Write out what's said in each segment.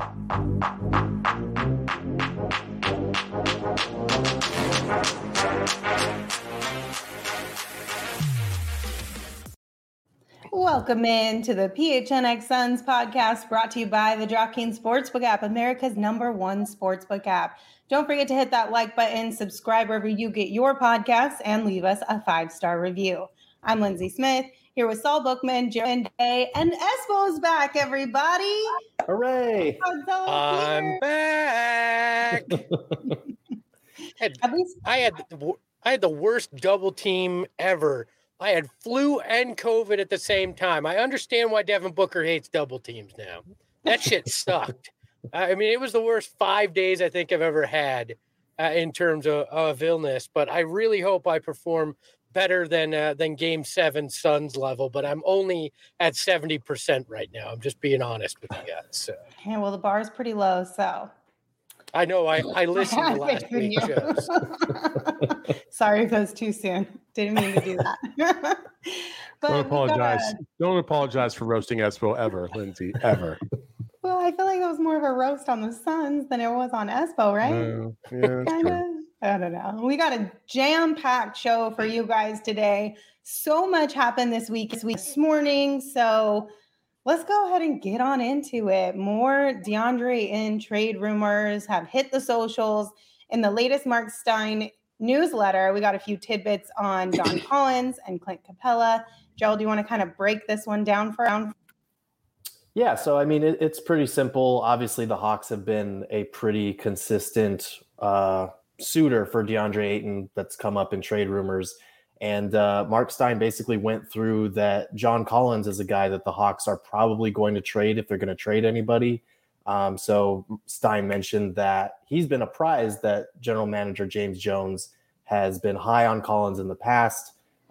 Welcome in to the PHNX Suns podcast, brought to you by the DraftKings Sportsbook app, America's #1 sportsbook app. Don't forget to hit that like button, subscribe wherever you get your podcasts, and leave us a 5-star review. I'm Lindsay Smith, here with Saul Bookman, Joe Day, and Espo's back, everybody. Hooray! I'm back. I had the worst double team ever. I had flu and COVID at the same time. I understand why Devin Booker hates double teams now. That shit sucked. I mean, it was the worst 5 days I think I've ever had in terms of illness. But I really hope I perform better than Game 7 Suns level. But I'm only at 70% right now. I'm just being honest with you guys. So. Yeah, well, the bar is pretty low, so. I know. I listened to last week's shows. Sorry if that was too soon. Didn't mean to do that. But don't apologize. Don't apologize for roasting Espo ever, Lindsay, ever. Well, I feel like it was more of a roast on the Suns than it was on Espo, right? Yeah, kind of. I don't know. We got a jam-packed show for you guys today. So much happened this morning. So let's go ahead and get on into it. More DeAndre Ayton trade rumors have hit the socials. In the latest Mark Stein newsletter, we got a few tidbits on John Collins and Clint Capella. Joel, do you want to kind of break this one down for us? Yeah, so I mean, it's pretty simple. Obviously, the Hawks have been a pretty consistent suitor for DeAndre Ayton that's come up in trade rumors. And Mark Stein basically went through that John Collins is a guy that the Hawks are probably going to trade if they're going to trade anybody. So Stein mentioned that he's been apprised that general manager James Jones has been high on Collins in the past.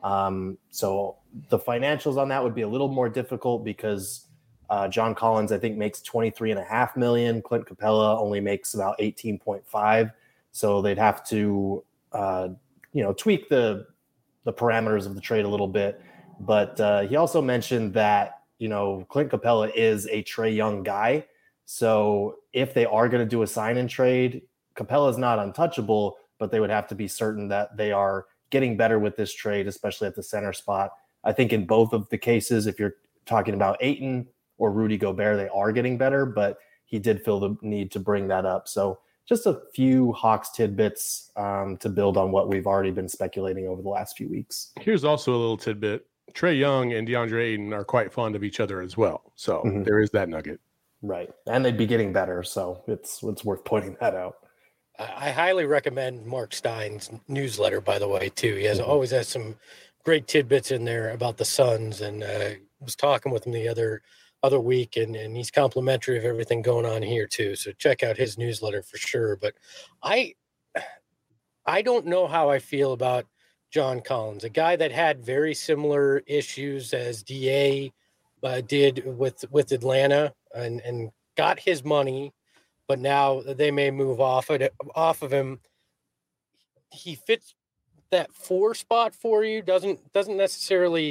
So the financials on that would be a little more difficult because John Collins, I think, makes $23.5 million. Clint Capella only makes about 18.5. So they'd have to, tweak the parameters of the trade a little bit. But he also mentioned that, Clint Capella is a Trae Young guy. So if they are going to do a sign and trade, Capella is not untouchable, but they would have to be certain that they are getting better with this trade, especially at the center spot. I think in both of the cases, if you're talking about Ayton or Rudy Gobert, they are getting better, but he did feel the need to bring that up. So just a few Hawks tidbits to build on what we've already been speculating over the last few weeks. Here's also a little tidbit. Trae Young and DeAndre Ayton are quite fond of each other as well. So There is that nugget. Right. And they'd be getting better. So it's worth pointing that out. I highly recommend Mark Stein's newsletter, by the way, too. He always has some great tidbits in there about the Suns, and was talking with him the other week, and he's complimentary of everything going on here too. So check out his newsletter for sure. But I don't know how I feel about John Collins, a guy that had very similar issues as DA did with Atlanta and got his money, but now they may move off of him. He fits that 4 spot for you, isn't necessarily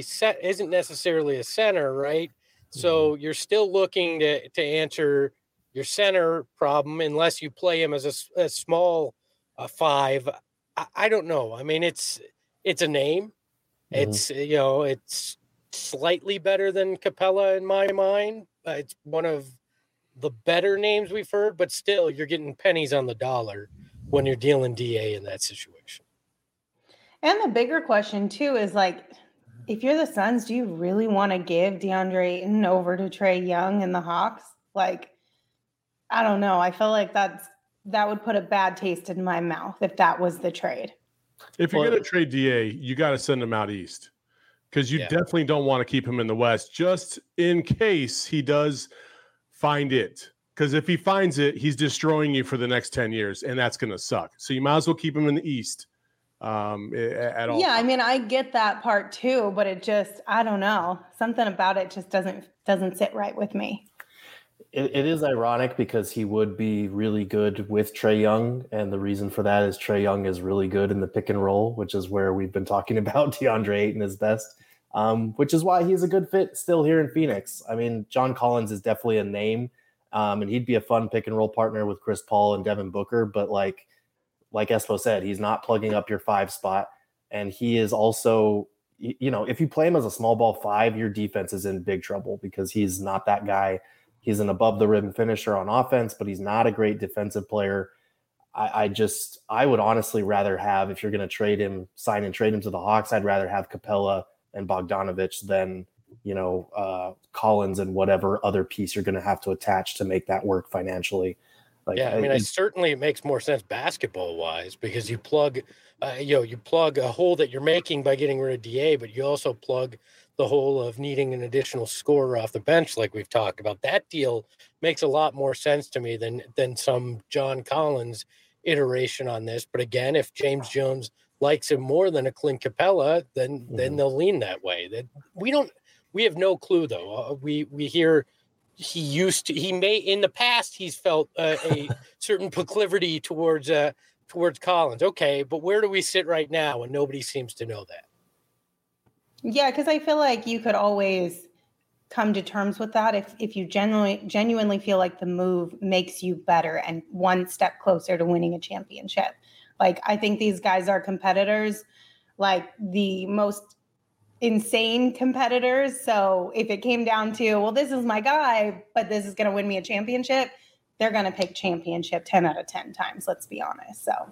a center, right? So you're still looking to answer your center problem unless you play him as a small 5. I don't know. I mean, it's a name. It's it's slightly better than Capella in my mind. It's one of the better names we've heard, but still, you're getting pennies on the dollar when you're dealing DA in that situation. And the bigger question too is if you're the Suns, do you really want to give DeAndre Ayton over to Trae Young and the Hawks? I don't know. I feel like that would put a bad taste in my mouth if that was the trade. If you're going to trade DA, you got to send him out east because you definitely don't want to keep him in the West just in case he does find it. Because if he finds it, he's destroying you for the next 10 years, and that's going to suck. So you might as well keep him in the East. At all. Yeah, I mean, I get that part too, but it just, I don't know. Something about it just doesn't sit right with me. It is ironic because he would be really good with Trae Young, and the reason for that is Trae Young is really good in the pick and roll, which is where we've been talking about DeAndre Ayton is best, which is why he's a good fit still here in Phoenix. I mean, John Collins is definitely a name. And he'd be a fun pick and roll partner with Chris Paul and Devin Booker. But like Espo said, he's not plugging up your 5 spot. And he is also, if you play him as a small ball 5, your defense is in big trouble because he's not that guy. He's an above the rim finisher on offense, but he's not a great defensive player. I would honestly rather have, if you're going to sign and trade him to the Hawks, I'd rather have Capella and Bogdanovich than, Collins and whatever other piece you're going to have to attach to make that work financially. Certainly it makes more sense basketball wise because you plug, you plug a hole that you're making by getting rid of DA, but you also plug the hole of needing an additional scorer off the bench, like we've talked about. That deal makes a lot more sense to me than some John Collins iteration on this. But again, if James Jones likes him more than a Clint Capella, then they'll lean that way. That we have no clue though. We hear he may in the past he's felt a certain proclivity towards Collins. Okay, but where do we sit right now? And nobody seems to know that. Yeah, because I feel like you could always come to terms with that if you genuinely feel like the move makes you better and one step closer to winning a championship. Like, I think these guys are competitors, like the most insane competitors. So if it came down to, well, this is my guy, but this is going to win me a championship, they're going to pick championship 10 out of 10 times. Let's be honest. So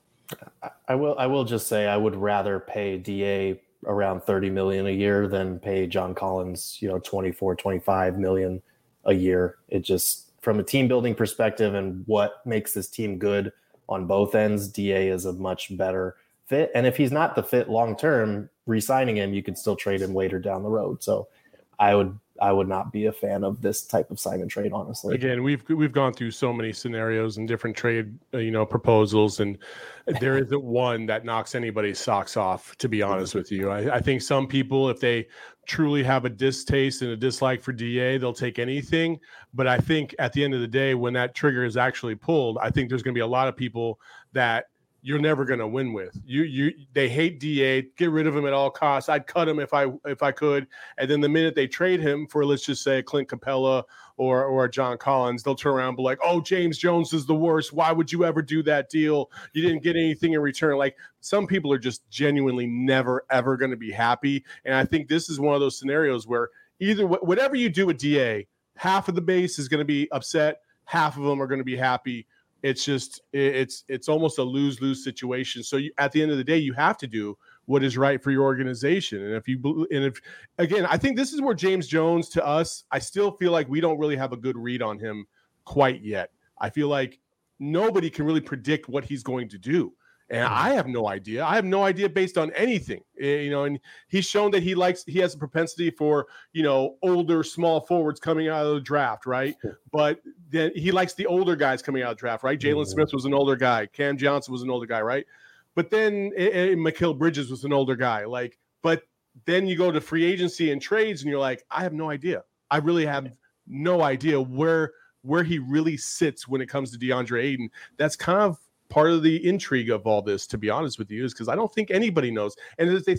I will just say I would rather pay DA around $30 million a year than pay John Collins, 24, 25 million a year. It just, from a team building perspective and what makes this team good on both ends, DA is a much better fit. And if he's not the fit long-term, re-signing him, you could still trade him later down the road. So I would not be a fan of this type of sign and trade, honestly. Again, we've gone through so many scenarios and different trade, proposals, and there isn't one that knocks anybody's socks off, to be honest with you. I think some people, if they truly have a distaste and a dislike for DA, they'll take anything. But I think at the end of the day, when that trigger is actually pulled, I think there's going to be a lot of people that you're never going to win with. They hate DA, get rid of him at all costs. I'd cut him if I could. And then the minute they trade him for, let's just say, Clint Capella or John Collins, they'll turn around and be like, oh, James Jones is the worst. Why would you ever do that deal? You didn't get anything in return. Like, some people are just genuinely never, ever going to be happy. And I think this is one of those scenarios where either whatever you do with DA, half of the base is going to be upset, half of them are going to be happy. It's just it's almost a lose-lose situation. So at the end of the day, you have to do what is right for your organization. And if again, I think this is where James Jones, to us, I still feel like we don't really have a good read on him quite yet. I feel like nobody can really predict what he's going to do. And I have no idea. I have no idea based on anything, and he's shown that he has a propensity for, older small forwards coming out of the draft. Right. But then he likes the older guys coming out of the draft. Right. Jalen Smith was an older guy. Cam Johnson was an older guy. Right. But then Mikal Bridges was an older guy. But then you go to free agency and trades and you're like, I have no idea. I really have no idea where he really sits when it comes to DeAndre Ayton. That's kind of part of the intrigue of all this, to be honest with you, is because I don't think anybody knows. And if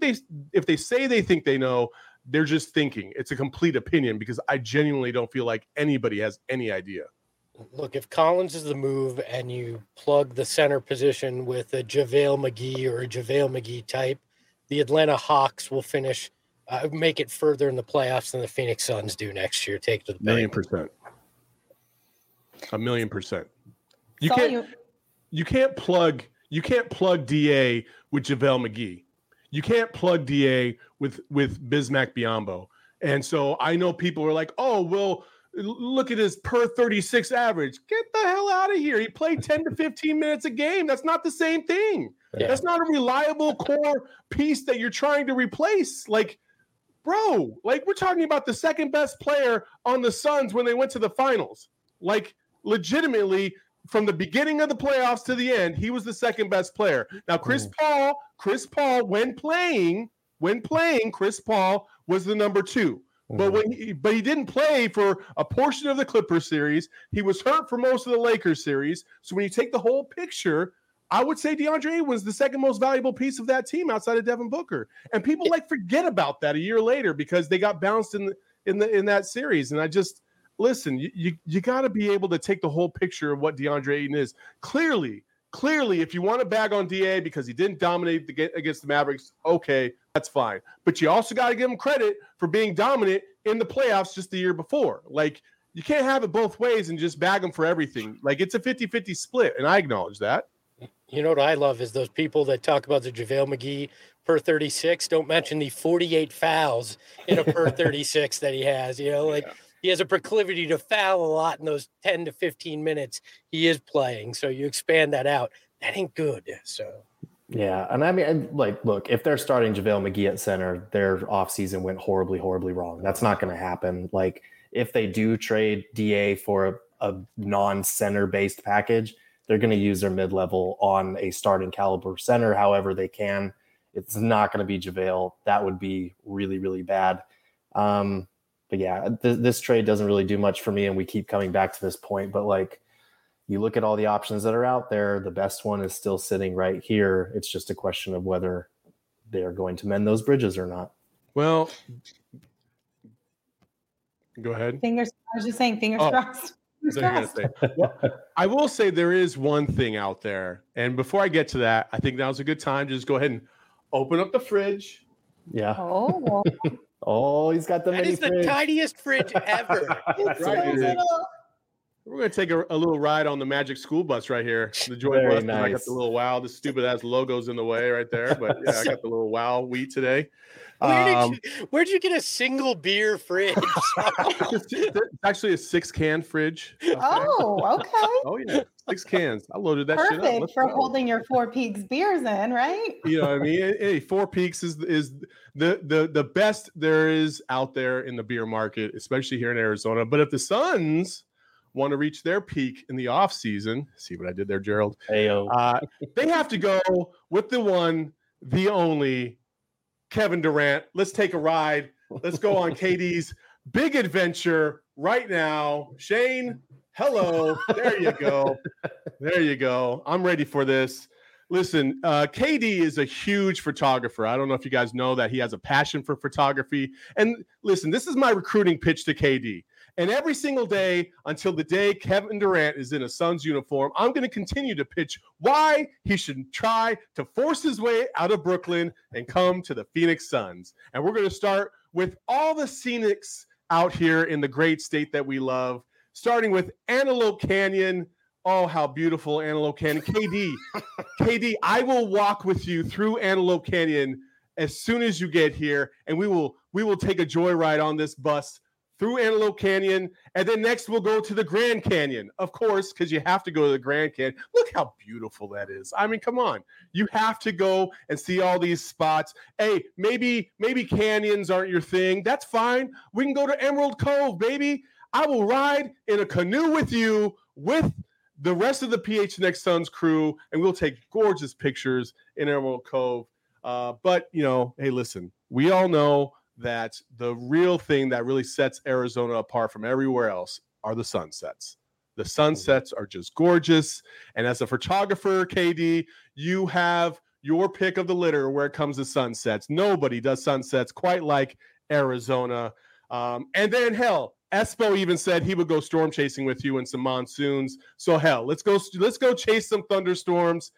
they say they think they know, they're just thinking. It's a complete opinion, because I genuinely don't feel like anybody has any idea. Look, if Collins is the move and you plug the center position with a JaVale McGee or a JaVale McGee type, the Atlanta Hawks will finish, make it further in the playoffs than the Phoenix Suns do next year. Take to the bank. 1,000,000%. 1,000,000%. You can't plug DA with JaVale McGee. You can't plug DA with Bismack Biyombo. And so I know people are like, oh, well, look at his per 36 average. Get the hell out of here. He played 10 to 15 minutes a game. That's not the same thing. Yeah. That's not a reliable core piece that you're trying to replace. Like, bro, we're talking about the second best player on the Suns when they went to the finals. Like, legitimately, from the beginning of the playoffs to the end, he was the second best player. Now, Chris Paul, when playing, Chris Paul was the number 2. But he didn't play for a portion of the Clippers series. He was hurt for most of the Lakers series. So when you take the whole picture, I would say DeAndre Ayton was the second most valuable piece of that team outside of Devin Booker. And people forget about that a year later because they got bounced in that series. And listen, you got to be able to take the whole picture of what DeAndre Ayton is. Clearly, if you want to bag on DA because he didn't dominate against the Mavericks, okay, that's fine. But you also got to give him credit for being dominant in the playoffs just the year before. Like, you can't have it both ways and just bag him for everything. Like, it's a 50-50 split, and I acknowledge that. You know what I love is those people that talk about the JaVale McGee per 36 don't mention the 48 fouls in a per 36 that he has. You know, like he has a proclivity to foul a lot in those 10 to 15 minutes he is playing. So you expand that out. That ain't good. So. Yeah, and I mean, like, look, if they're starting JaVale McGee at center, their offseason went horribly, horribly wrong. That's not going to happen. Like, if they do trade DA for a non-center based package, they're going to use their mid-level on a starting caliber center however they can. It's not going to be JaVale. That would be really, really bad. But yeah, this trade doesn't really do much for me, and we keep coming back to this point. But like, you look at all the options that are out there, the best one is still sitting right here. It's just a question of whether they're going to mend those bridges or not. Well, go ahead. I was just saying, fingers crossed. Well, I will say there is one thing out there. And before I get to that, I think now's a good time to just go ahead and open up the fridge. Yeah. Oh, he's got the That is the tiniest fridge ever. Right. We're going to take a little ride on the Magic School Bus right here. The Joy Bus. Nice. I got the little WOW. The stupid ass logo's in the way right there. But yeah, I got the little WOW wheat today. Where'd you get a single beer fridge? It's actually a 6-can fridge. Okay. Oh, okay. Oh, yeah. 6 cans. I loaded that shit up. Perfect for holding your Four Peaks beers in, right? You know what I mean? Hey, Four Peaks is the best there is out there in the beer market, especially here in Arizona. But if the Suns want to reach their peak in the off season, see what I did there, Gerald? They have to go with the one, the only Kevin Durant. Let's take a ride. Let's go on KD's big adventure right now. Shane, hello. There you go. There you go. I'm ready for this. Listen, KD is a huge photographer. I don't know if you guys know that he has a passion for photography. And listen, this is my recruiting pitch to KD. And every single day until the day Kevin Durant is in a Suns uniform, I'm going to continue to pitch why he should try to force his way out of Brooklyn and come to the Phoenix Suns. And we're going to start with all the scenics out here in the great state that we love, starting with Antelope Canyon. Oh, how beautiful Antelope Canyon. KD, I will walk with you through Antelope Canyon as soon as you get here, and we will take a joyride on this bus through Antelope Canyon, and then next we'll go to the Grand Canyon, of course, because you have to go to the Grand Canyon. Look how beautiful that is. I mean, come on. You have to go and see all these spots. Hey, maybe canyons aren't your thing. That's fine. We can go to Emerald Cove, baby. I will ride in a canoe with you with the rest of the PHNX Suns crew, and we'll take gorgeous pictures in Emerald Cove. But, you know, hey, listen, we all know that the real thing that really sets Arizona apart from everywhere else are the sunsets. The sunsets are just gorgeous. And as a photographer, KD, you have your pick of the litter where it comes to sunsets. Nobody does sunsets quite like Arizona. And then, hell, Espo even said he would go storm chasing with you in some monsoons. So, hell, let's go chase some thunderstorms.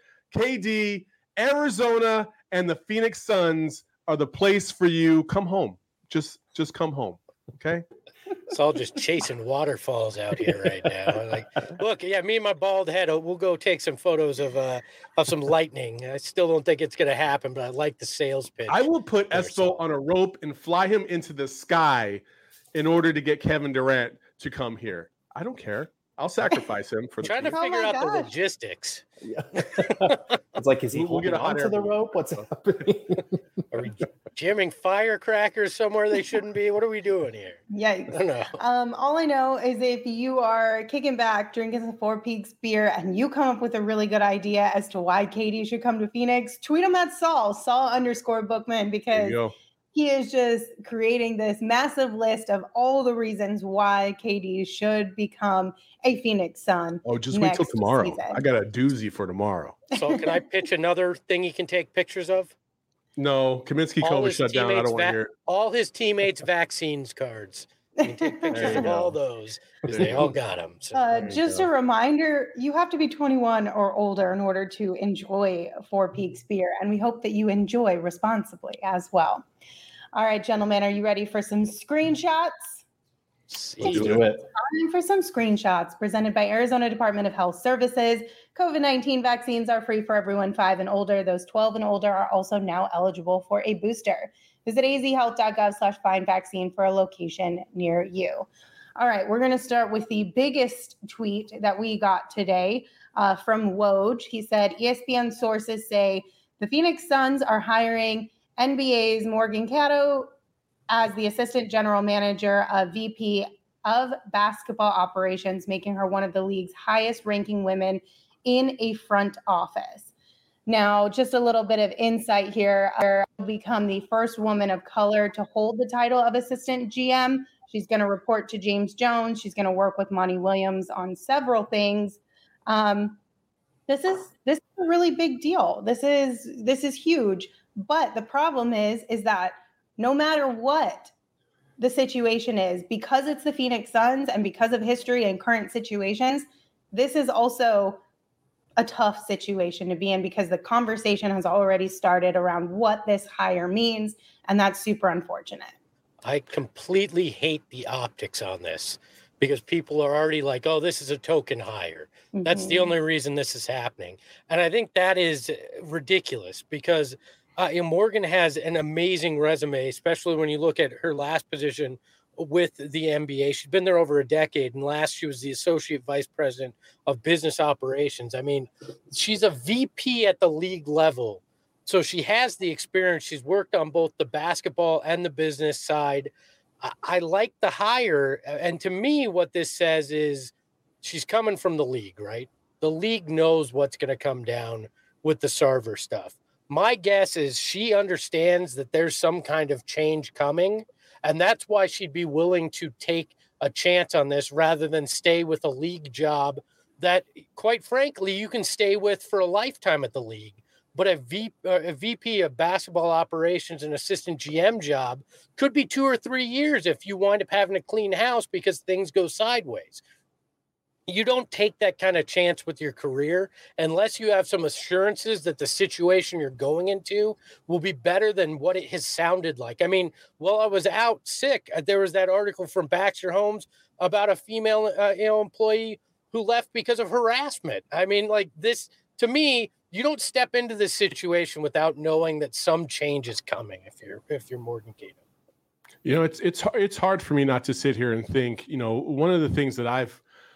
KD, Arizona, and the Phoenix Suns are the place for you. Come home. Just come home. Okay. It's all just chasing waterfalls out here right now. Like, look, yeah, me and my bald head, we'll go take some photos of some lightning. I still don't think it's going to happen, but I like the sales pitch. I will put Espo on a rope and fly him into the sky in order to get Kevin Durant to come here. I don't care. I'll sacrifice him for trying to figure out the logistics. Yeah. It's like, is he holding onto the rope? What's happening? Are we jamming firecrackers somewhere they shouldn't be? What are we doing here? Yikes. I don't know. All I know is if you are kicking back, drinking some Four Peaks beer, and you come up with a really good idea as to why KD should come to Phoenix, tweet him at Saul_Bookman, because he is just creating this massive list of all the reasons why KD should become a Phoenix Sun. Oh, just wait till tomorrow. Season. I got a doozy for tomorrow. So can I pitch another thing you can take pictures of? No, Kaminsky COVID shut down. I don't want to hear it. All his teammates' vaccines cards. You can take pictures of all those because they all got them. So. Just a reminder, you have to be 21 or older in order to enjoy Four Peaks beer, and we hope that you enjoy responsibly as well. All right, gentlemen, are you ready for some screenshots? Let's do it. Time for some screenshots presented by Arizona Department of Health Services. COVID-19 vaccines are free for everyone 5 and older. Those 12 and older are also now eligible for a booster. Visit azhealth.gov/find-vaccine for a location near you. All right, we're going to start with the biggest tweet that we got today from Woj. He said, ESPN sources say the Phoenix Suns are hiring NBA's Morgan Caddo as the assistant general manager of VP of basketball operations, making her one of the league's highest ranking women in a front office. Now, just a little bit of insight here. She'll become the first woman of color to hold the title of assistant GM. She's going to report to James Jones. She's going to work with Monty Williams on several things. This is a really big deal. This is huge. But the problem is that no matter what the situation is, because it's the Phoenix Suns and because of history and current situations, this is also a tough situation to be in because the conversation has already started around what this hire means, and that's super unfortunate. I completely hate the optics on this because people are already like, oh, this is a token hire. Mm-hmm. That's the only reason this is happening. And I think that is ridiculous because Morgan has an amazing resume, especially when you look at her last position with the NBA. She's been there over a decade, and last she was the associate vice president of business operations. I mean, she's a VP at the league level. So she has the experience. She's worked on both the basketball and the business side. I like the hire. And to me, what this says is she's coming from the league, right? The league knows what's going to come down with the Sarver stuff. My guess is she understands that there's some kind of change coming, and that's why she'd be willing to take a chance on this rather than stay with a league job that, quite frankly, you can stay with for a lifetime at the league. But a VP of basketball operations and assistant GM job could be 2 or 3 years if you wind up having to clean house because things go sideways. You don't take that kind of chance with your career unless you have some assurances that the situation you're going into will be better than what it has sounded like. I mean, while I was out sick, there was that article from Baxter Holmes about a female employee who left because of harassment. I mean, like this, to me, you don't step into this situation without knowing that some change is coming if you're Morgan Caddo. You know, it's hard for me not to sit here and think, one of the things that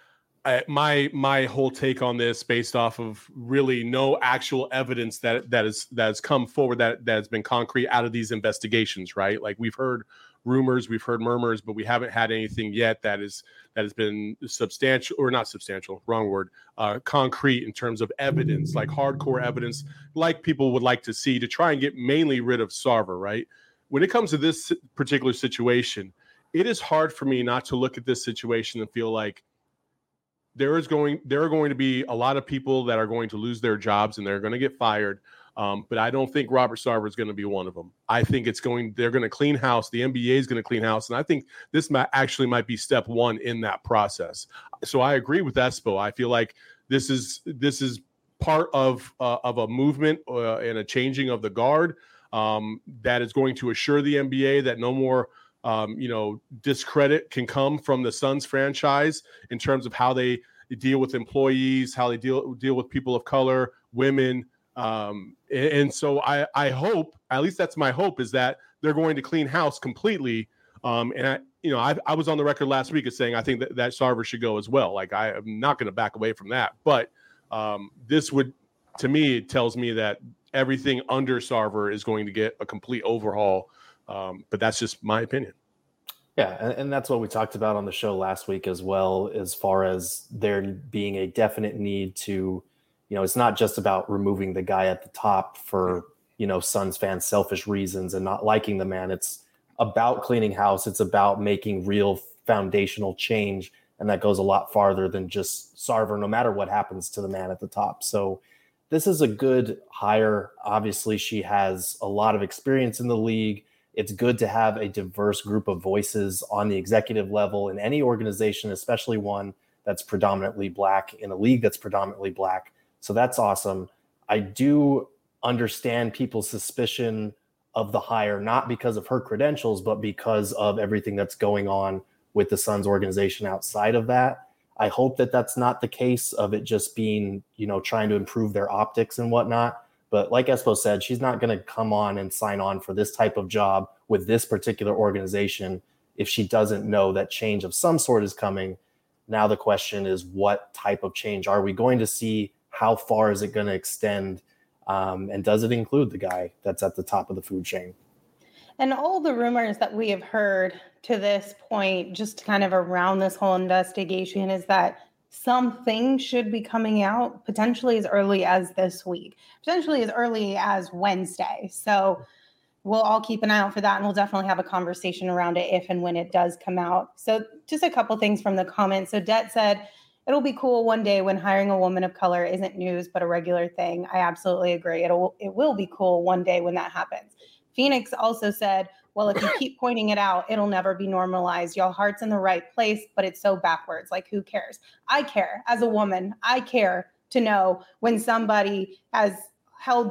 my whole take on this based off of really no actual evidence that has come forward that has been concrete out of these investigations, right? Like we've heard rumors, we've heard murmurs, but we haven't had anything yet that has been substantial, or not substantial, wrong word, concrete in terms of evidence, like hardcore evidence, like people would like to see to try and get mainly rid of Sarver, right? When it comes to this particular situation, it is hard for me not to look at this situation and feel like there are going to be a lot of people that are going to lose their jobs and they're going to get fired. But I don't think Robert Sarver is going to be one of them. I think they're going to clean house. The NBA is going to clean house. And I think this might be step one in that process. So I agree with Espo. I feel like this is part of a movement and a changing of the guard that is going to assure the NBA that no more discredit can come from the Suns franchise in terms of how they deal with employees, how they deal with people of color, women. And so I hope, at least that's my hope, is that they're going to clean house completely. And I was on the record last week as saying I think that Sarver should go as well. Like I am not going to back away from that. But this would, to me, it tells me that everything under Sarver is going to get a complete overhaul. But that's just my opinion. Yeah, and that's what we talked about on the show last week as well, as far as there being a definite need to, it's not just about removing the guy at the top for, Suns fans' selfish reasons and not liking the man. It's about cleaning house. It's about making real foundational change. And that goes a lot farther than just Sarver, no matter what happens to the man at the top. So this is a good hire. Obviously, she has a lot of experience in the league. It's good to have a diverse group of voices on the executive level in any organization, especially one that's predominantly Black, in a league that's predominantly Black. So that's awesome. I do understand people's suspicion of the hire, not because of her credentials, but because of everything that's going on with the Suns organization outside of that. I hope that that's not the case of it just being, trying to improve their optics and whatnot. But like Espo said, she's not going to come on and sign on for this type of job with this particular organization if she doesn't know that change of some sort is coming. Now the question is, what type of change are we going to see? How far is it going to extend? And does it include the guy that's at the top of the food chain? And all the rumors that we have heard to this point, just kind of around this whole investigation, is that something should be coming out potentially as early as this week, potentially as early as Wednesday. So we'll all keep an eye out for that, and we'll definitely have a conversation around it if and when it does come out. So just a couple things from the comments. So Det said, it'll be cool one day when hiring a woman of color isn't news, but a regular thing. I absolutely agree. It will be cool one day when that happens. Phoenix also said, well, if you keep pointing it out, it'll never be normalized. Y'all heart's in the right place, but it's so backwards. Like, who cares? I care as a woman. I care to know when somebody has held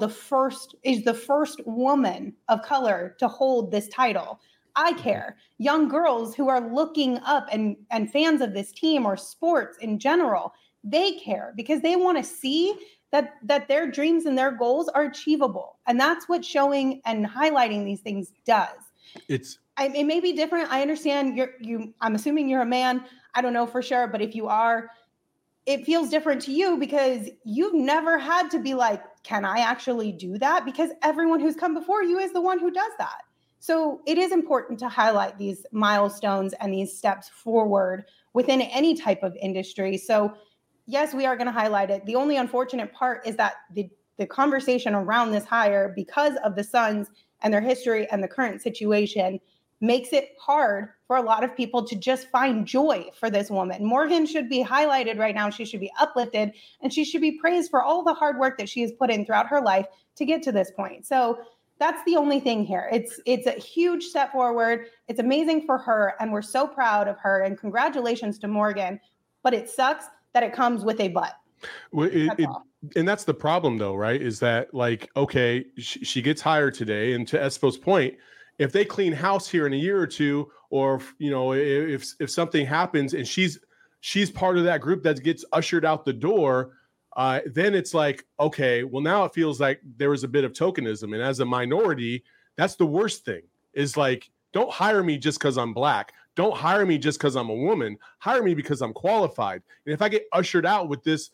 is the first woman of color to hold this title. I care. Young girls who are looking up and fans of this team or sports in general, they care because they want to see that their dreams and their goals are achievable. And that's what showing and highlighting these things does. It may be different. I understand I'm assuming you're a man. I don't know for sure, but if you are, it feels different to you because you've never had to be like, can I actually do that? Because everyone who's come before you is the one who does that. So it is important to highlight these milestones and these steps forward within any type of industry. So yes, we are going to highlight it. The only unfortunate part is that the conversation around this hire, because of the Suns and their history and the current situation, makes it hard for a lot of people to just find joy for this woman. Morgan should be highlighted right now. She should be uplifted, and she should be praised for all the hard work that she has put in throughout her life to get to this point. So that's the only thing here. It's a huge step forward. It's amazing for her, and we're so proud of her, and congratulations to Morgan. But it sucks that it comes with a but. Well, and that's the problem, though, right? Is that, like, okay, she gets hired today, and to Espo's point, if they clean house here in a year or two, or if something happens and she's part of that group that gets ushered out the door, then it's like, okay, well, now it feels like there was a bit of tokenism, and as a minority, that's the worst thing. Is like, don't hire me just because I'm Black. Don't hire me just because I'm a woman. Hire me because I'm qualified. And if I get ushered out with this,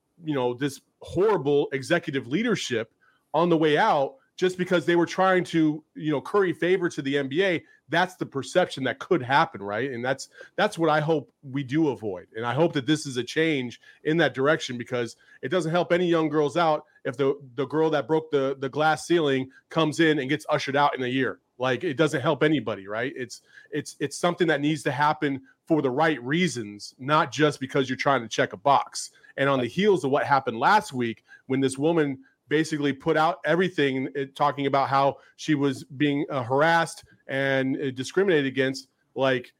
this horrible executive leadership on the way out, just because they were trying to, curry favor to the NBA, that's the perception that could happen, right? And that's what I hope we do avoid. And I hope that this is a change in that direction, because it doesn't help any young girls out if the girl that broke the glass ceiling comes in and gets ushered out in a year. Like, it doesn't help anybody, right? It's something that needs to happen for the right reasons, not just because you're trying to check a box. And on the heels of what happened last week, when this woman basically put out everything talking about how she was being harassed and discriminated against, like,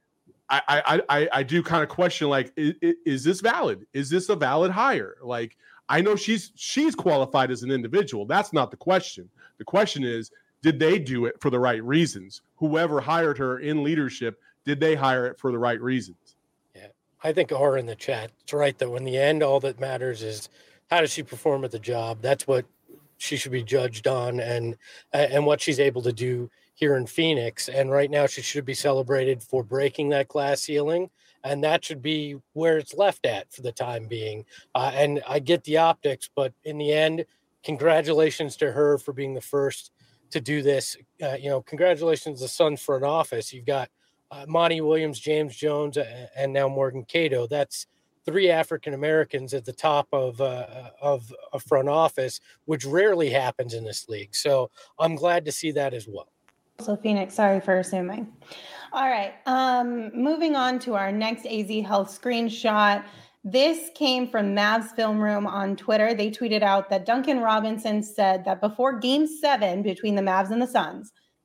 I do kind of question, like, is this valid? Is this a valid hire? Like, I know she's qualified as an individual. That's not the question. The question is, did they do it for the right reasons? Whoever hired her in leadership, did they hire it for the right reasons? Yeah, I think R in the chat, it's right, though. In the end, all that matters is how does she perform at the job. That's what she should be judged on, and what she's able to do here in Phoenix. And right now she should be celebrated for breaking that glass ceiling, and that should be where it's left at for the time being. And I get the optics, but in the end, congratulations to her for being the first to do this. Congratulations to the Suns front office. You've got Monty Williams, James Jones, and now Morgan Cato. That's 3 African Americans at the top of a front office, which rarely happens in this league. So I'm glad to see that as well. So Phoenix, sorry for assuming. All right, moving on to our next AZ Health screenshot. This came from Mavs Film Room on Twitter. They tweeted out that Duncan Robinson said that before Game 7 between the Mavs and the Suns,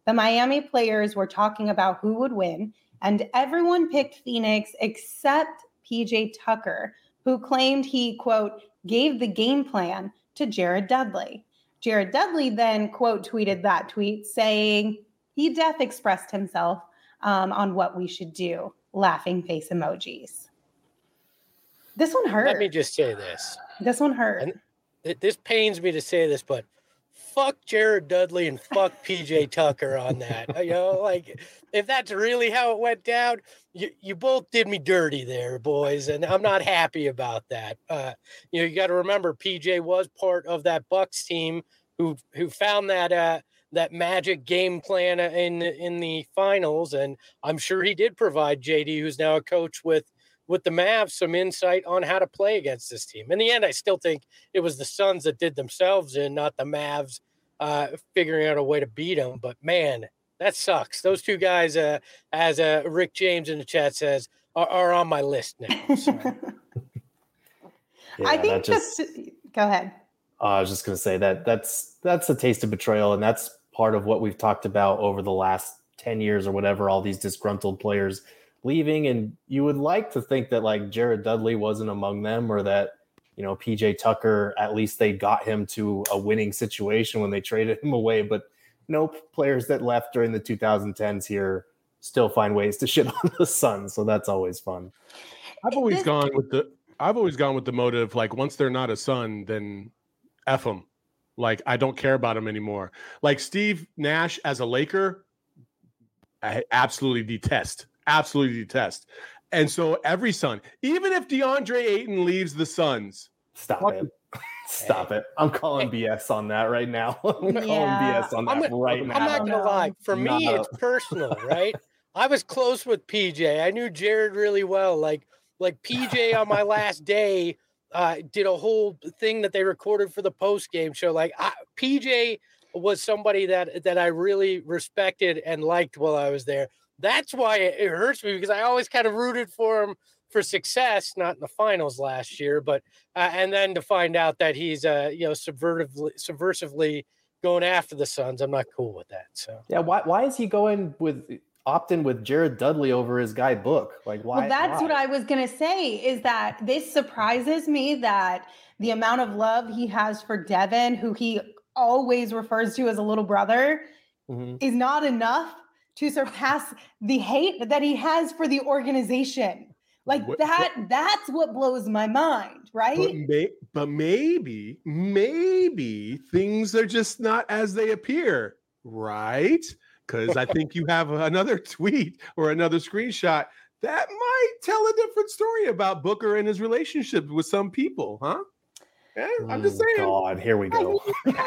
the Miami players were talking about who would win, and everyone picked Phoenix except PJ Tucker, who claimed he, quote, gave the game plan to Jared Dudley. Jared Dudley then, quote, tweeted that tweet saying he expressed himself on what we should do. Laughing face emojis. This one hurt. Let me just say this. This one hurt. And this pains me to say this, but fuck Jared Dudley and fuck PJ Tucker on that. You know, like if that's really how it went down, you both did me dirty there, boys, and I'm not happy about that. You know, you got to remember PJ was part of that Bucks team who found that that magic game plan in the finals, and I'm sure he did provide JD, who's now a coach with the Mavs, some insight on how to play against this team. In the end, I still think it was the Suns that did themselves in, not the Mavs figuring out a way to beat them. But man, that sucks. Those two guys, as Rick James in the chat says, are on my list now. So. Yeah, I think go ahead. I was just going to say that's a taste of betrayal, and that's part of what we've talked about over the last 10 years or whatever, all these disgruntled players leaving. And you would like to think that like Jared Dudley wasn't among them, or that, you know, PJ Tucker, at least they got him to a winning situation when they traded him away. But no, players that left during the 2010s here still find ways to shit on the Suns. So that's always fun. I've always gone with the motive, like once they're not a Sun, then F them. Like, I don't care about them anymore. Like Steve Nash as a Laker, I absolutely detest. And so every Sun, even if DeAndre Ayton leaves the Suns. Stop it. I'm calling BS on that right now. I'm calling BS on that right now. I'm not going to lie. For me, it's personal, right? I was close with PJ. I knew Jared really well. Like PJ on my last day, did a whole thing that they recorded for the post-game show. Like PJ was somebody that I really respected and liked while I was there. That's why it hurts me, because I always kind of rooted for him for success, not in the finals last year, but and then to find out that he's subversively going after the Suns, I'm not cool with that. So yeah, why is he opting with Jared Dudley over his guy Book? Like, why? Well, that's what I was going to say, is that this surprises me that the amount of love he has for Devin, who he always refers to as a little brother, is not enough to surpass the hate that he has for the organization. Like that's what blows my mind, right? But maybe things are just not as they appear, right? Because I think you have another tweet or another screenshot that might tell a different story about Booker and his relationship with some people, huh? Yeah, I'm just saying. God, here we go.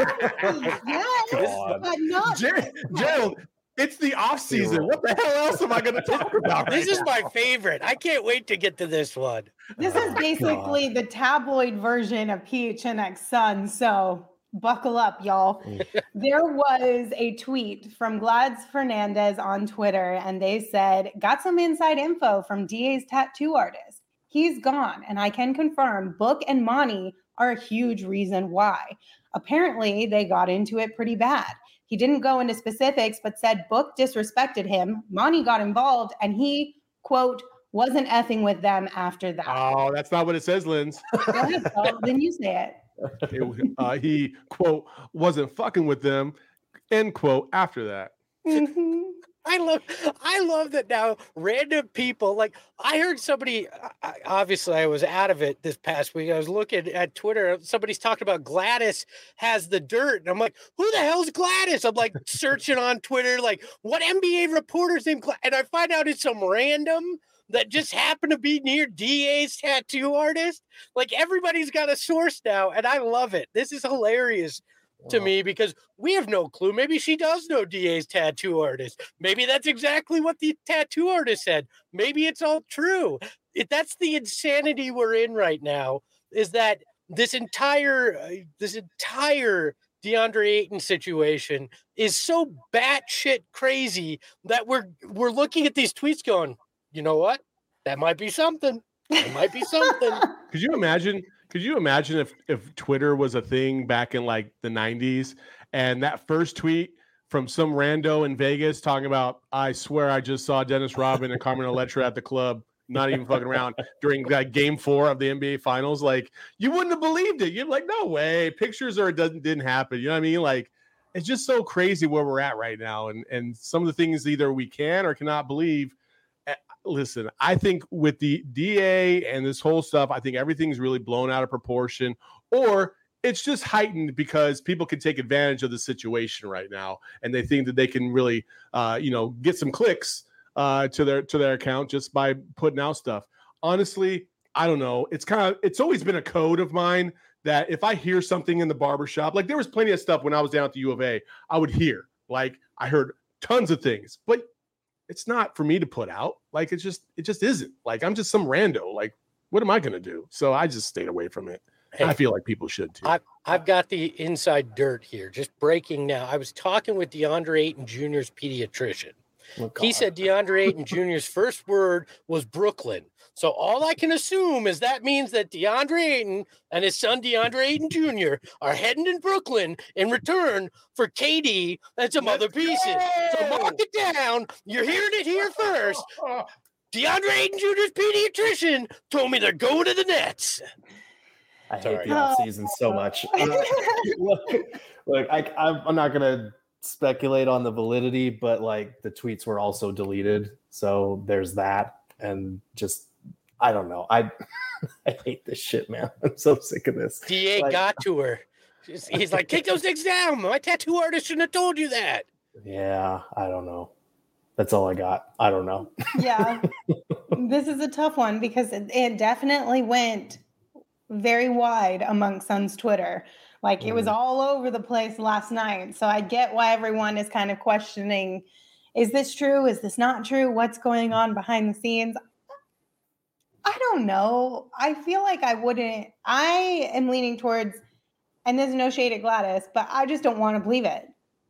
Gerald, it's the off season. What the hell else am I going to talk about? This is my favorite. I can't wait to get to this one. This is basically the tabloid version of PHNX Sun. So buckle up, y'all. There was a tweet from Glads Fernandez on Twitter, and they said, got some inside info from DA's tattoo artist. He's gone, and I can confirm Book and Monty are a huge reason why. Apparently, they got into it pretty bad. He didn't go into specifics, but said Book disrespected him. Monty got involved, and he, quote, wasn't effing with them after that. Oh, that's not what it says, Linz. Go ahead, then you say it. He, quote, wasn't fucking with them, end quote, after that. Mm-hmm. I love that now random people, like I heard somebody, obviously I was out of it this past week. I was looking at Twitter. Somebody's talking about Gladys has the dirt. And I'm like, who the hell's Gladys? I'm like searching on Twitter, like what NBA reporter's name? And I find out it's some random that just happened to be near DA's tattoo artist. Like everybody's got a source now. And I love it. This is hilarious to me, because we have no clue. Maybe she does know DA's tattoo artist. Maybe that's exactly what the tattoo artist said. Maybe it's all true. That's the insanity we're in right now, is that this entire DeAndre Ayton situation is so batshit crazy that we're looking at these tweets going, you know what? That might be something. It might be something. Could you imagine if Twitter was a thing back in like the 90s, and that first tweet from some rando in Vegas talking about, I swear I just saw Dennis Rodman and Carmen Electra at the club, not even fucking around, during that game 4 of the NBA Finals. Like, you wouldn't have believed it. You're like, no way. Pictures or it didn't happen. You know what I mean? Like, it's just so crazy where we're at right now. And some of the things either we can or cannot believe. Listen, I think with the DA and this whole stuff, I think everything's really blown out of proportion, or it's just heightened because people can take advantage of the situation right now, and they think that they can really, get some clicks to their account just by putting out stuff. Honestly, I don't know. It's always been a code of mine that if I hear something in the barbershop, like there was plenty of stuff when I was down at the U of A, I would hear. Like I heard tons of things, but it's not for me to put out. Like it just isn't. Like I'm just some rando. Like what am I going to do? So I just stayed away from it. Hey, I feel like people should too. I've got the inside dirt here, just breaking now. I was talking with DeAndre Ayton Jr.'s pediatrician. Oh, he said DeAndre Ayton Jr.'s first word was Brooklyn. So all I can assume is that means that DeAndre Ayton and his son DeAndre Ayton Jr. are heading to Brooklyn in return for KD and some other pieces. So mark it down. You're hearing it here first. DeAndre Ayton Jr.'s pediatrician told me they're going to the Nets. I hate the off season so much. Look, I'm not gonna speculate on the validity, but like the tweets were also deleted, so there's that. And just I don't know. I hate this shit, man. I'm so sick of this. DA got to her. He's like, take those things down. My tattoo artist shouldn't have told you that. Yeah, I don't know. That's all I got. I don't know. Yeah, this is a tough one because it definitely went very wide among Suns Twitter. Like it was all over the place last night. So I get why everyone is kind of questioning, is this true? Is this not true? What's going on behind the scenes? I don't know. I feel like I am leaning towards, and there's no shade at Gladys, but I just don't want to believe it.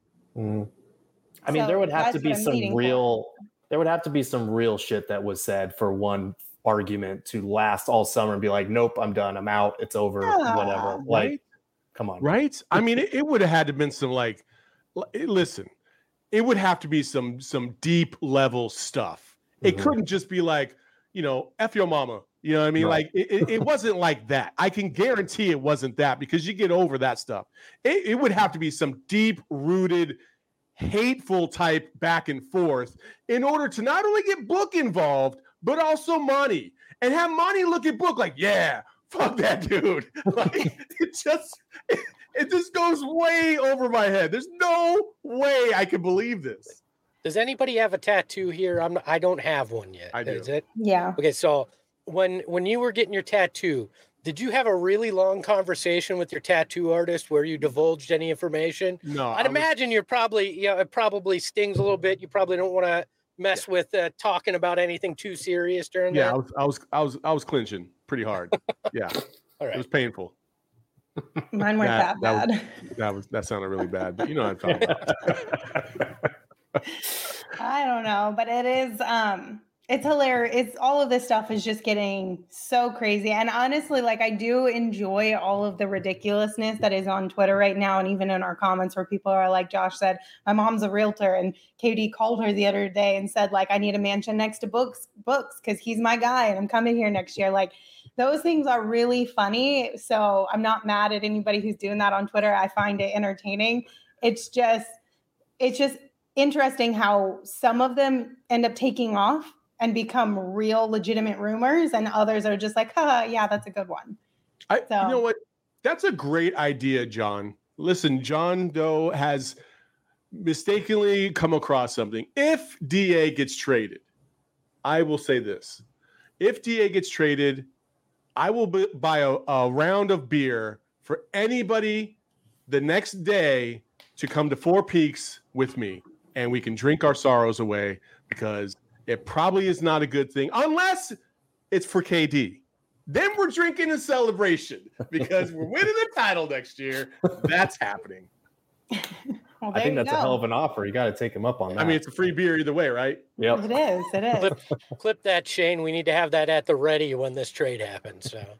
I mean, there would have to be some real shit that was said for one argument to last all summer and be like, nope, I'm done, I'm out, it's over, whatever. Like, right? Come on, right? I mean, it would have had to been some listen, it would have to be some deep level stuff. It couldn't just be like, F your mama. You know what I mean? Right. Like it wasn't like that. I can guarantee it wasn't that, because you get over that stuff. It would have to be some deep rooted, hateful type back and forth in order to not only get Book involved, but also Monty, and have Monty look at Book like, yeah, fuck that dude. Like it just goes way over my head. There's no way I can believe this. Does anybody have a tattoo here? I don't have one yet. I do. Is it? Yeah. Okay, so when you were getting your tattoo, did you have a really long conversation with your tattoo artist where you divulged any information? No. I'd imagine you're probably, it probably stings a little bit. You probably don't want to mess with talking about anything too serious during that. I was clinching pretty hard. Yeah. All right. It was painful. Mine weren't that bad. That sounded really bad, but you know what I'm talking about. I don't know, but it is it's hilarious. It's all of this stuff is just getting so crazy. And honestly, like I do enjoy all of the ridiculousness that is on Twitter right now. And even in our comments where people are like, Josh said, my mom's a realtor, and KD called her the other day and said, like, I need a mansion next to books because he's my guy and I'm coming here next year. Like those things are really funny. So I'm not mad at anybody who's doing that on Twitter. I find it entertaining. It's just interesting how some of them end up taking off and become real legitimate rumors, and others are just like, yeah, that's a good one. You know what? That's a great idea, John. Listen, John Doe has mistakenly come across something. If DA gets traded, I will say this. If DA gets traded, I will buy a round of beer for anybody the next day to come to Four Peaks with me, and we can drink our sorrows away, because it probably is not a good thing unless it's for KD. Then we're drinking a celebration because we're winning the title next year. That's happening. Well, I think that's a hell of an offer. You got to take him up on that. I mean, it's a free beer either way, right? Yep. It is. Clip that, Shane. We need to have that at the ready when this trade happens. So,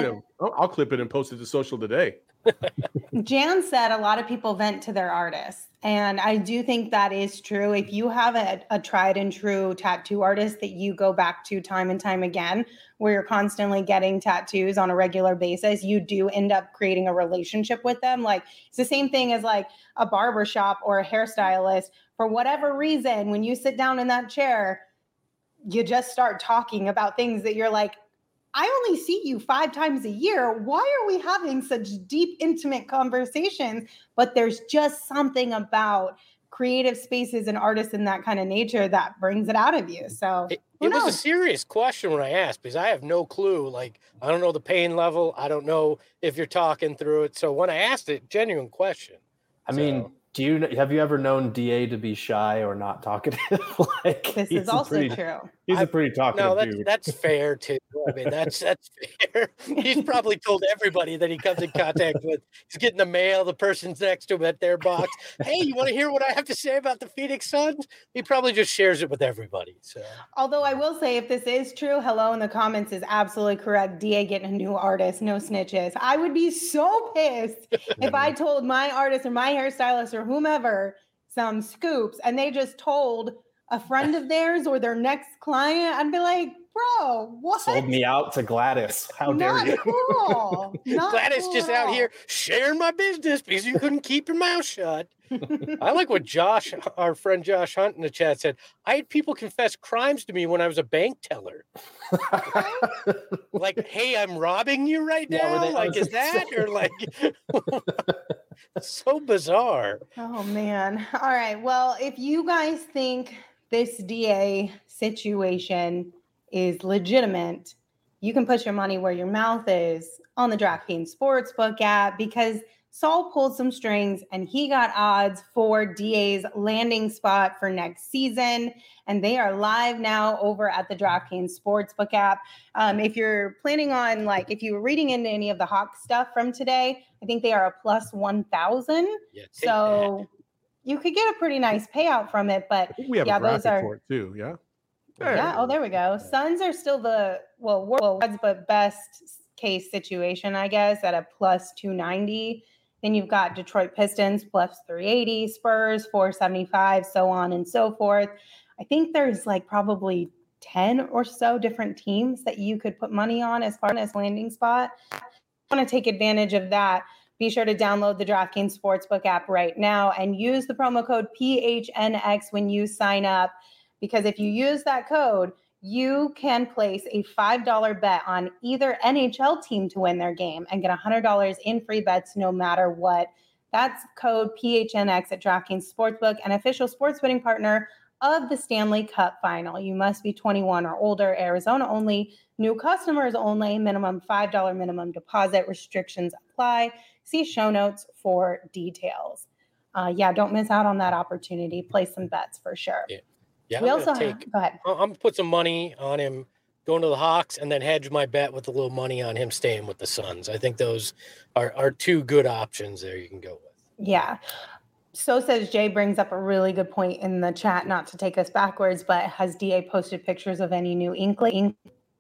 I'll clip it and post it to social today. Jan said a lot of people vent to their artists. And I do think that is true. If you have a tried and true tattoo artist that you go back to time and time again, where you're constantly getting tattoos on a regular basis, you do end up creating a relationship with them. Like it's the same thing as like a barbershop or a hairstylist. For whatever reason, when you sit down in that chair, you just start talking about things that you're like, I only see you 5 times a year. Why are we having such deep, intimate conversations? But there's just something about creative spaces and artists in that kind of nature that brings it out of you. So it was a serious question when I asked, because I have no clue. Like, I don't know the pain level. I don't know if you're talking through it. So when I asked it, genuine question. I mean, have you ever known DA to be shy or not talkative? Like, this is also true. He's a pretty talkative dude. No, that's fair too. I mean, that's fair. He's probably told everybody that he comes in contact with. He's getting the mail. The person's next to him at their box. Hey, you want to hear what I have to say about the Phoenix Suns? He probably just shares it with everybody. So, although I will say, if this is true, hello in the comments is absolutely correct. DA getting a new artist, no snitches. I would be so pissed if I told my artist or my hairstylist or whomever some scoops and they just told a friend of theirs or their next client. I'd be like, bro, what? Sold me out to Gladys. How dare you? Cool. Gladys cool just out here sharing my business because you couldn't keep your mouth shut. I like what Josh, our friend Josh Hunt in the chat said. I had people confess crimes to me when I was a bank teller. Like, hey, I'm robbing you right now? Like, is that? Or like, so bizarre. Oh, man. All right. Well, if you guys think this DA situation is legitimate, you can put your money where your mouth is on the DraftKings Sportsbook app, because Saul pulled some strings and he got odds for DA's landing spot for next season. And they are live now over at the DraftKings Sportsbook app. If you're planning on, like, if you were reading into any of the Hawk stuff from today, I think they are a plus 1,000. Yeah, so you could get a pretty nice payout from it. But we have a graphic for it too. Yeah. Yeah. Oh, there we go. Suns are still the world's but best case situation, I guess, at a plus 290. Then you've got Detroit Pistons plus 380, Spurs 475, so on and so forth. I think there's like probably 10 or so different teams that you could put money on as far as landing spot. If you want to take advantage of that, be sure to download the DraftKings Sportsbook app right now and use the promo code PHNX when you sign up. Because if you use that code, you can place a $5 bet on either NHL team to win their game and get $100 in free bets no matter what. That's code PHNX at DraftKings Sportsbook, an official sports betting partner of the Stanley Cup Final. You must be 21 or older, Arizona only, new customers only, minimum $5 minimum deposit, restrictions apply. See show notes for details. Don't miss out on that opportunity. Place some bets for sure. Yeah, we also go ahead. I'm going to put some money on him going to the Hawks and then hedge my bet with a little money on him staying with the Suns. I think those are two good options there you can go with. Yeah. So says Jay brings up a really good point in the chat, not to take us backwards, but has DA posted pictures of any new ink?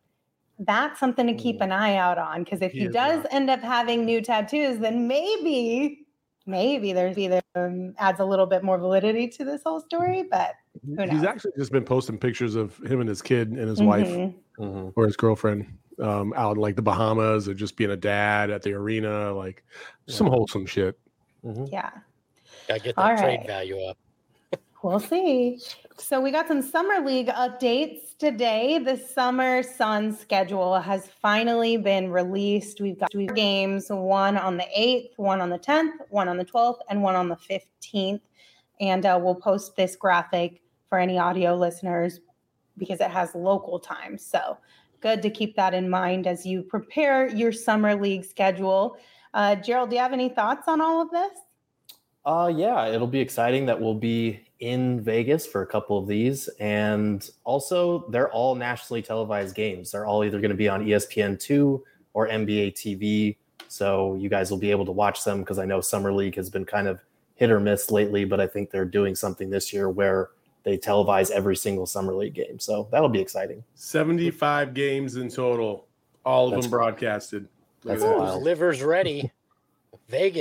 That's something to keep an eye out on, because if he does end up having new tattoos, then maybe there's either adds a little bit more validity to this whole story, but who knows? He's actually just been posting pictures of him and his kid and his wife or his girlfriend out in like the Bahamas, or just being a dad at the arena, like some wholesome shit. Yeah. Gotta get that trade value up. We'll see. So we got some summer league updates today. The summer Sun schedule has finally been released. We've got 2 games, one on the 8th, one on the 10th, one on the 12th, and one on the 15th. And we'll post this graphic for any audio listeners because it has local time. So good to keep that in mind as you prepare your summer league schedule. Gerald, do you have any thoughts on all of this? Yeah, it'll be exciting that we'll be in Vegas for a couple of these. And also, they're all nationally televised games. They're all either going to be on ESPN2 or NBA TV. So you guys will be able to watch them, because I know Summer League has been kind of hit or miss lately, but I think they're doing something this year where they televise every single Summer League game. So that'll be exciting. 75 games in total, all of them broadcasted. That's wild. Livers ready. Vegas.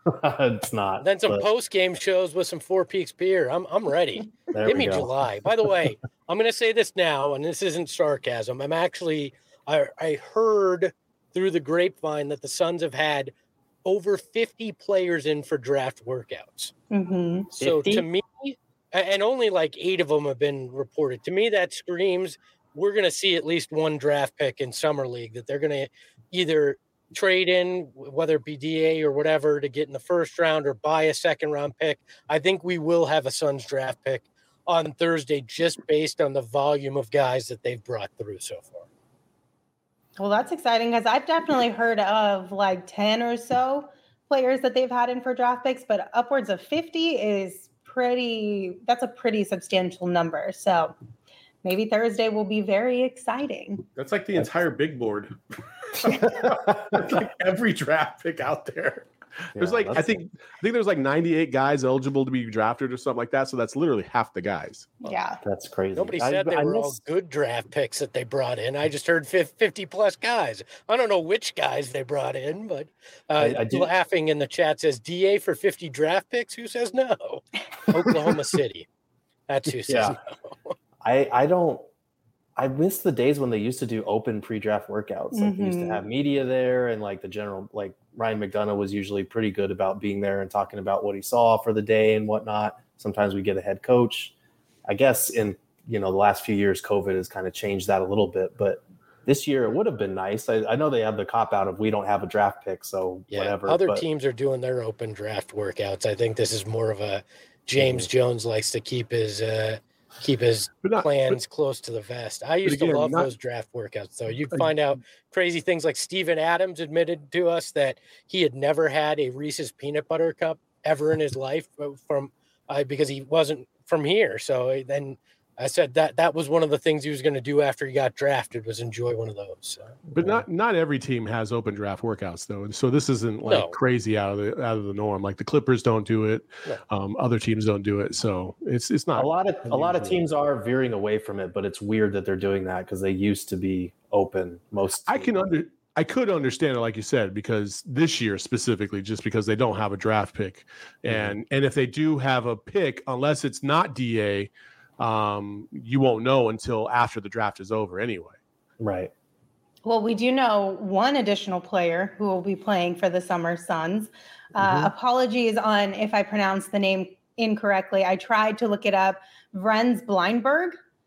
It's not. Then some post-game shows with some Four Peaks beer. I'm ready. Give me July. By the way, I'm going to say this now, and this isn't sarcasm. I heard through the grapevine that the Suns have had over 50 players in for draft workouts. Mm-hmm. So 50? To me, and only like 8 of them have been reported. To me, that screams we're going to see at least one draft pick in Summer League that they're going to either trade in, whether it be DA or whatever, to get in the first round or buy a second-round pick. I think we will have a Suns draft pick on Thursday just based on the volume of guys that they've brought through so far. Well, that's exciting because I've definitely heard of like 10 or so players that they've had in for draft picks, but upwards of 50 is that's a pretty substantial number. So maybe Thursday will be very exciting. That's like the entire big board. Like every draft pick out there. There's I think there's like 98 guys eligible to be drafted or something like that. So that's literally half the guys. Yeah. That's crazy. Nobody said they were all good draft picks that they brought in. I just heard 50 plus guys. I don't know which guys they brought in, but laughing in the chat says DA for 50 draft picks. Who says no? Oklahoma City. That's who says no. I miss the days when they used to do open pre-draft workouts. Like they used to have media there, and like the general, like Ryan McDonough was usually pretty good about being there and talking about what he saw for the day and whatnot. Sometimes we get a head coach. I guess in the last few years, COVID has kind of changed that a little bit, but this year it would have been nice. I know they have the cop out of we don't have a draft pick, so whatever. Other teams are doing their open draft workouts. I think this is more of a James Jones likes to keep his plans close to the vest. I used to love those draft workouts, though. You'd find out crazy things like Steven Adams admitted to us that he had never had a Reese's peanut butter cup ever in his life because he wasn't from here. So then I said that was one of the things he was going to do after he got drafted was enjoy one of those. So. But not every team has open draft workouts though, and so this isn't crazy out of the norm. Like the Clippers don't do it, other teams don't do it, so it's not. A lot of teams are veering away from it, but it's weird that they're doing that because they used to be open. I could understand it, like you said, because this year specifically, just because they don't have a draft pick, and if they do have a pick, unless it's not DA. You won't know until after the draft is over anyway. Right. Well, we do know one additional player who will be playing for the Summer Suns. Apologies on if I pronounced the name incorrectly. I tried to look it up. Vrens Blindberg.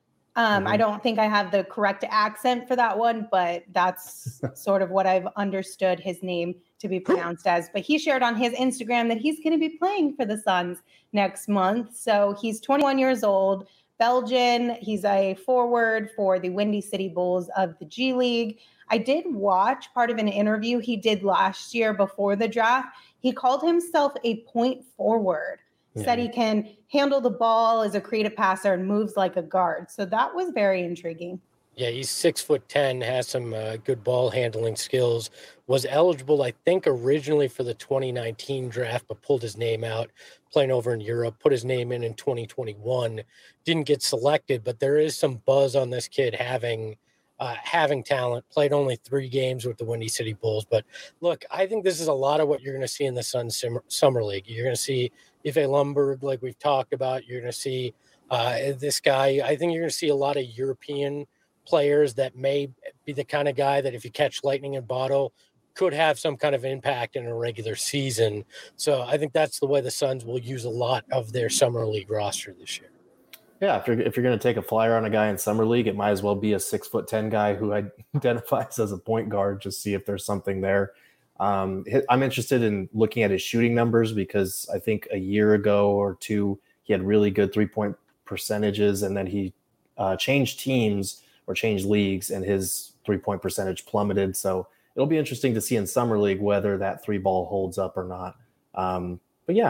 I don't think I have the correct accent for that one, but that's sort of what I've understood his name to be pronounced as. But he shared on his Instagram that he's going to be playing for the Suns next month. So he's 21 years old, Belgian. He's a forward for the Windy City Bulls of the G League. I did watch part of an interview he did last year before the draft. He called himself a point forward. Said he can handle the ball, is a creative passer, and moves like a guard. So that was very intriguing. Yeah, he's 6'10", has some good ball handling skills. Was eligible, I think, originally for the 2019 draft, but pulled his name out, playing over in Europe. Put his name in 2021. Didn't get selected, but there is some buzz on this kid having talent. Played only 3 games with the Windy City Bulls. But look, I think this is a lot of what you're going to see in the Suns Summer League. You're going to see Ife Lundberg, like we've talked about. You're going to see this guy. I think you're going to see a lot of European players that may be the kind of guy that if you catch lightning in a bottle could have some kind of impact in a regular season. So I think that's the way the Suns will use a lot of their Summer League roster this year. Yeah, if you're going to take a flyer on a guy in Summer League, it might as well be a 6'10" guy who identifies as a point guard. Just see if there's something there. I'm interested in looking at his shooting numbers because I think a year ago or two he had really good 3-point percentages, and then he changed teams or changed leagues, and his 3-point percentage plummeted. So it'll be interesting to see in Summer League whether that 3-ball holds up or not. But yeah,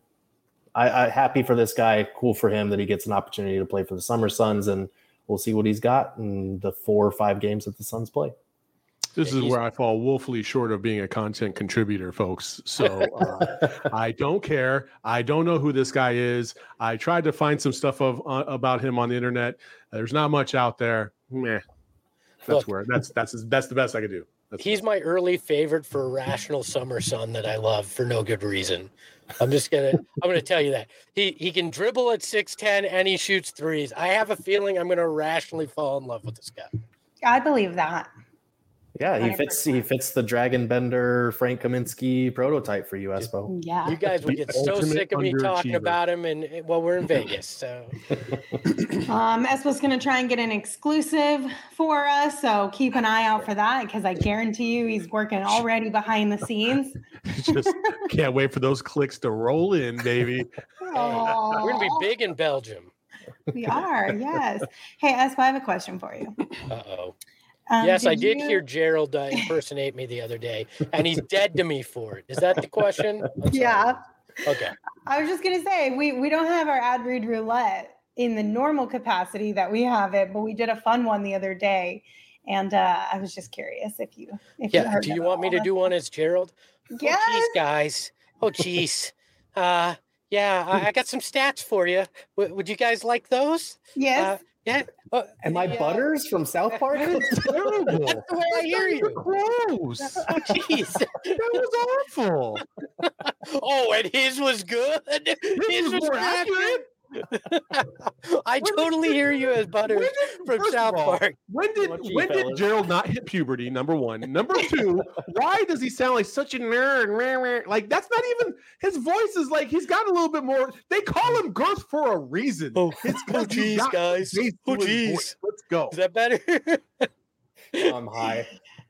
I happy for this guy. Cool for him that he gets an opportunity to play for the Summer Suns, and we'll see what he's got in the 4 or 5 games that the Suns play. This is where I fall woefully short of being a content contributor, folks. So I don't care. I don't know who this guy is. I tried to find some stuff about him on the internet. There's not much out there. Meh. That's the best I could do. He's my early favorite for irrational summer sun that I love for no good reason. I'm gonna tell you that he can dribble at 6'10" and he shoots threes. I have a feeling I'm gonna irrationally fall in love with this guy. I believe that. Yeah, he 100%. fits the Dragon Bender Frank Kaminsky prototype for you, Espo. Yeah. You guys would get so sick of me talking about him, and well, we're in Vegas, so. Espo's going to try and get an exclusive for us, so keep an eye out for that because I guarantee you he's working already behind the scenes. Just can't wait for those clicks to roll in, baby. We're going to be big in Belgium. We are, yes. Hey, Espo, I have a question for you. Uh-oh. Yes, I did hear Gerald impersonate me the other day, and he's dead to me for it. Is that the question? Yeah. Okay. I was just going to say, we don't have our ad read roulette in the normal capacity that we have it, but we did a fun one the other day. And I was just curious if you heard. Do you want me to do one as Gerald? Yes. Oh, geez, guys. Oh, geez. Yeah, I got some stats for you. Would you guys like those? Yes. Yeah. Am I Butters from South Park? That's terrible. That's the way I hear you. Gross. Oh, jeez. That was awful. Oh, and his was good. His was more accurate. I totally hear you as Butters from South Park. When did Gerald not hit puberty? Number one. Number two, why does he sound like such a nerd? Like that's not even his voice is like he's got a little bit more. They call him Girth for a reason. Oh, geez, guys. Oh, geez. Let's go. Is that better? I'm high.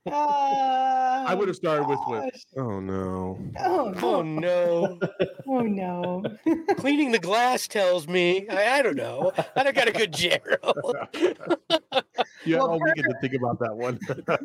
I would have started with gosh. oh no. Oh no. Oh no. Cleaning the glass tells me. I don't know. I don't got a good Gerald. Yeah, Well, we get to think about that one.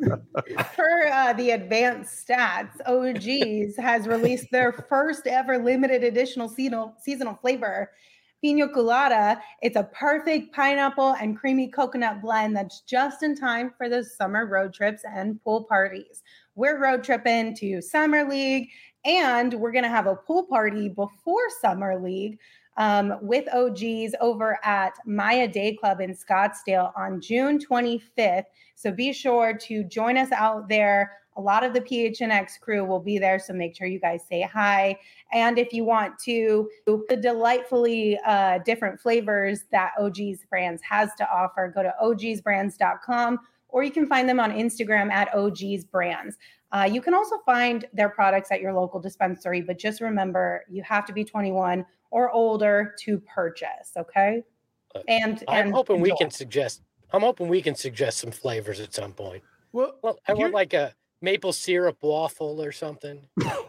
Per the advanced stats, OG's has released their first ever limited editional seasonal flavor, Pina Colada. It's a perfect pineapple and creamy coconut blend that's just in time for those summer road trips and pool parties. We're road tripping to Summer League, and we're going to have a pool party before Summer League with OG's over at Maya Day Club in Scottsdale on June 25th. So be sure to join us out there. A lot of the PHNX crew will be there, so make sure you guys say hi. And if you want to, the delightfully different flavors that OG's Brands has to offer, go to ogsbrands.com, or you can find them on Instagram at OG's Brands. You can also find their products at your local dispensary, but just remember, you have to be 21 or older to purchase, okay? And I'm hoping we can suggest some flavors at some point. Well, I want like a maple syrup waffle or something.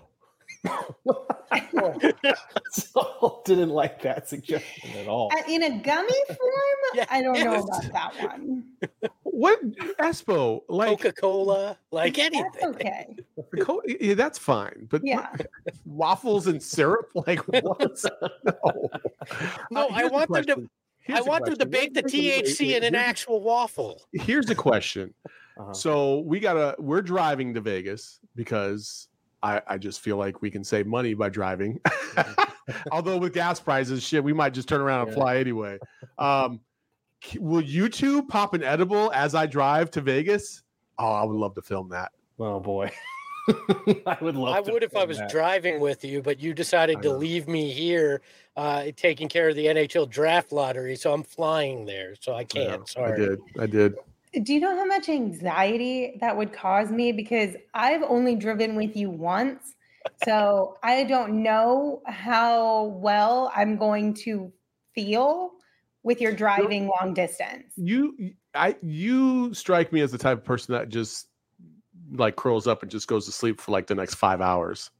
So didn't like that suggestion at all. In a gummy form? Yeah, I don't know about that one. What Espo like Coca-Cola, like anything? That's okay. Yeah, that's fine. But Yeah. waffles and syrup, like what? No, I want them to bake the THC in an actual waffle. Here's the question. So we're driving to Vegas because I just feel like we can save money by driving. Although with gas prices, shit, we might just turn around and fly anyway. Will you two pop an edible as I drive to Vegas? Oh, I would love to film that. Oh boy. I would love I would if I was driving with you, but you decided to leave me here taking care of the NHL draft lottery, so I'm flying there, so I can't. Sorry. I did. Do you know how much anxiety that would cause me? Because I've only driven with you once. So I don't know how well I'm going to feel with your driving long distance. You strike me as the type of person that just like curls up and just goes to sleep for like the next 5 hours.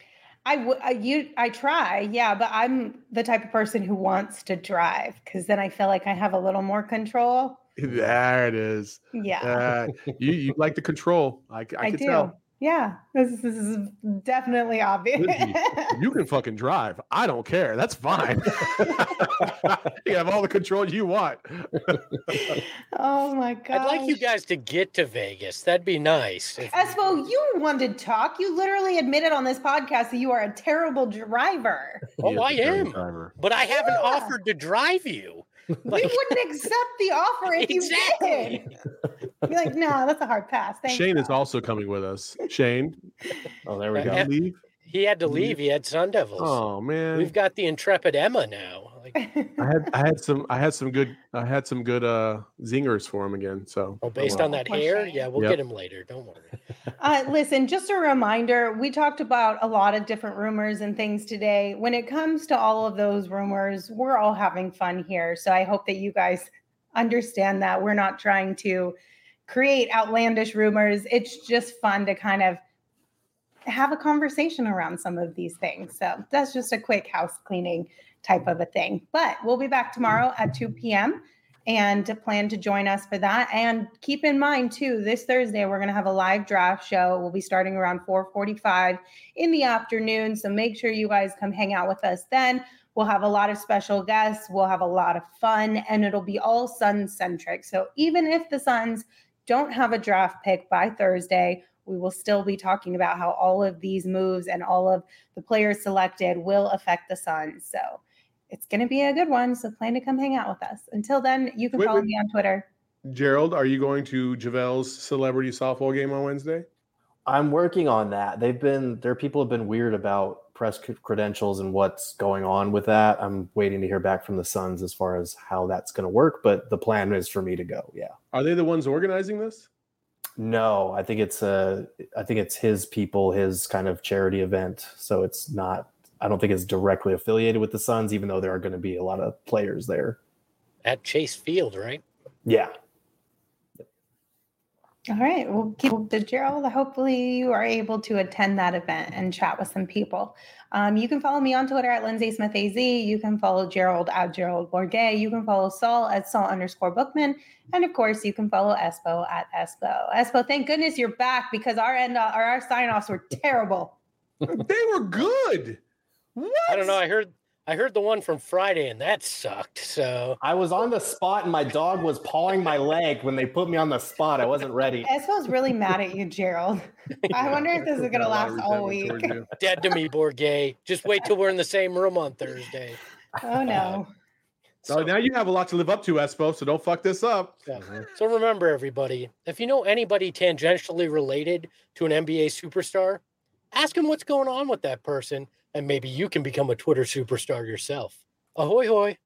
I try, yeah, but I'm the type of person who wants to drive because then I feel like I have a little more control. There it is. Yeah. You like the control. I can do. tell. Yeah. This is definitely obvious. You can fucking drive. I don't care. That's fine. You have all the control you want. Oh my God. I'd like you guys to get to Vegas. That'd be nice. Espo, you wanted to talk. You literally admitted on this podcast that you are a terrible driver. Oh, I am. But I haven't offered to drive you. We wouldn't accept the offer if you did. Be like, no, that's a hard pass. Thanks, Shane is though." also coming with us. Shane, Oh, there we did go. you leave? He had to leave. He had Sun Devils. Oh man, We've got the intrepid Emma now. Like, I had some good zingers for him again. So based on that Poor hair, Shane. yeah, we'll Yep. get him later. Don't worry. Listen, just a reminder, we talked about a lot of different rumors and things today. When it comes to all of those rumors, we're all having fun here. So I hope that you guys understand that we're not trying to create outlandish rumors. It's just fun to kind of have a conversation around some of these things. So that's just a quick house cleaning type of a thing. But we'll be back tomorrow at 2 p.m. and plan to join us for that. And keep in mind too, this Thursday, we're going to have a live draft show. We'll be starting around 4:45 in the afternoon. So make sure you guys come hang out with us then. We'll have a lot of special guests. We'll have a lot of fun, and it'll be all Suns centric. So even if the Suns don't have a draft pick by Thursday, we will still be talking about how all of these moves and all of the players selected will affect the Suns. So it's going to be a good one. So plan to come hang out with us. Until then, you can follow me on Twitter. Gerald, are you going to Javel's celebrity softball game on Wednesday? I'm working on that. People have been weird about press credentials and what's going on with that. I'm waiting to hear back from the Suns as far as how that's going to work, but the plan is for me to go. Yeah. Are they the ones organizing this? No, I think it's his people, his kind of charity event. So it's not, I don't think it's directly affiliated with the Suns, even though there are going to be a lot of players there. At Chase Field, right? Yeah. All right. We'll keep the Gerald. Hopefully you are able to attend that event and chat with some people. You can follow me on Twitter at Lindsay Smith AZ. You can follow Gerald at Gerald Bourget. You can follow Saul at Saul_Bookman. And of course, you can follow Espo at Espo. Espo, thank goodness you're back because our sign-offs were terrible. They were good. What? I don't know. I heard the one from Friday, and that sucked. So I was on the spot and my dog was pawing my leg when they put me on the spot. I wasn't ready. Espo's really mad at you, Gerald. I wonder if this is going to last all week. dead to me, Bourget. Just wait till we're in the same room on Thursday. Oh, no. So now you have a lot to live up to, Espo, so don't fuck this up. Yeah. So remember, everybody, if you know anybody tangentially related to an NBA superstar, ask them what's going on with that person, and maybe you can become a Twitter superstar yourself. Ahoy, hoy.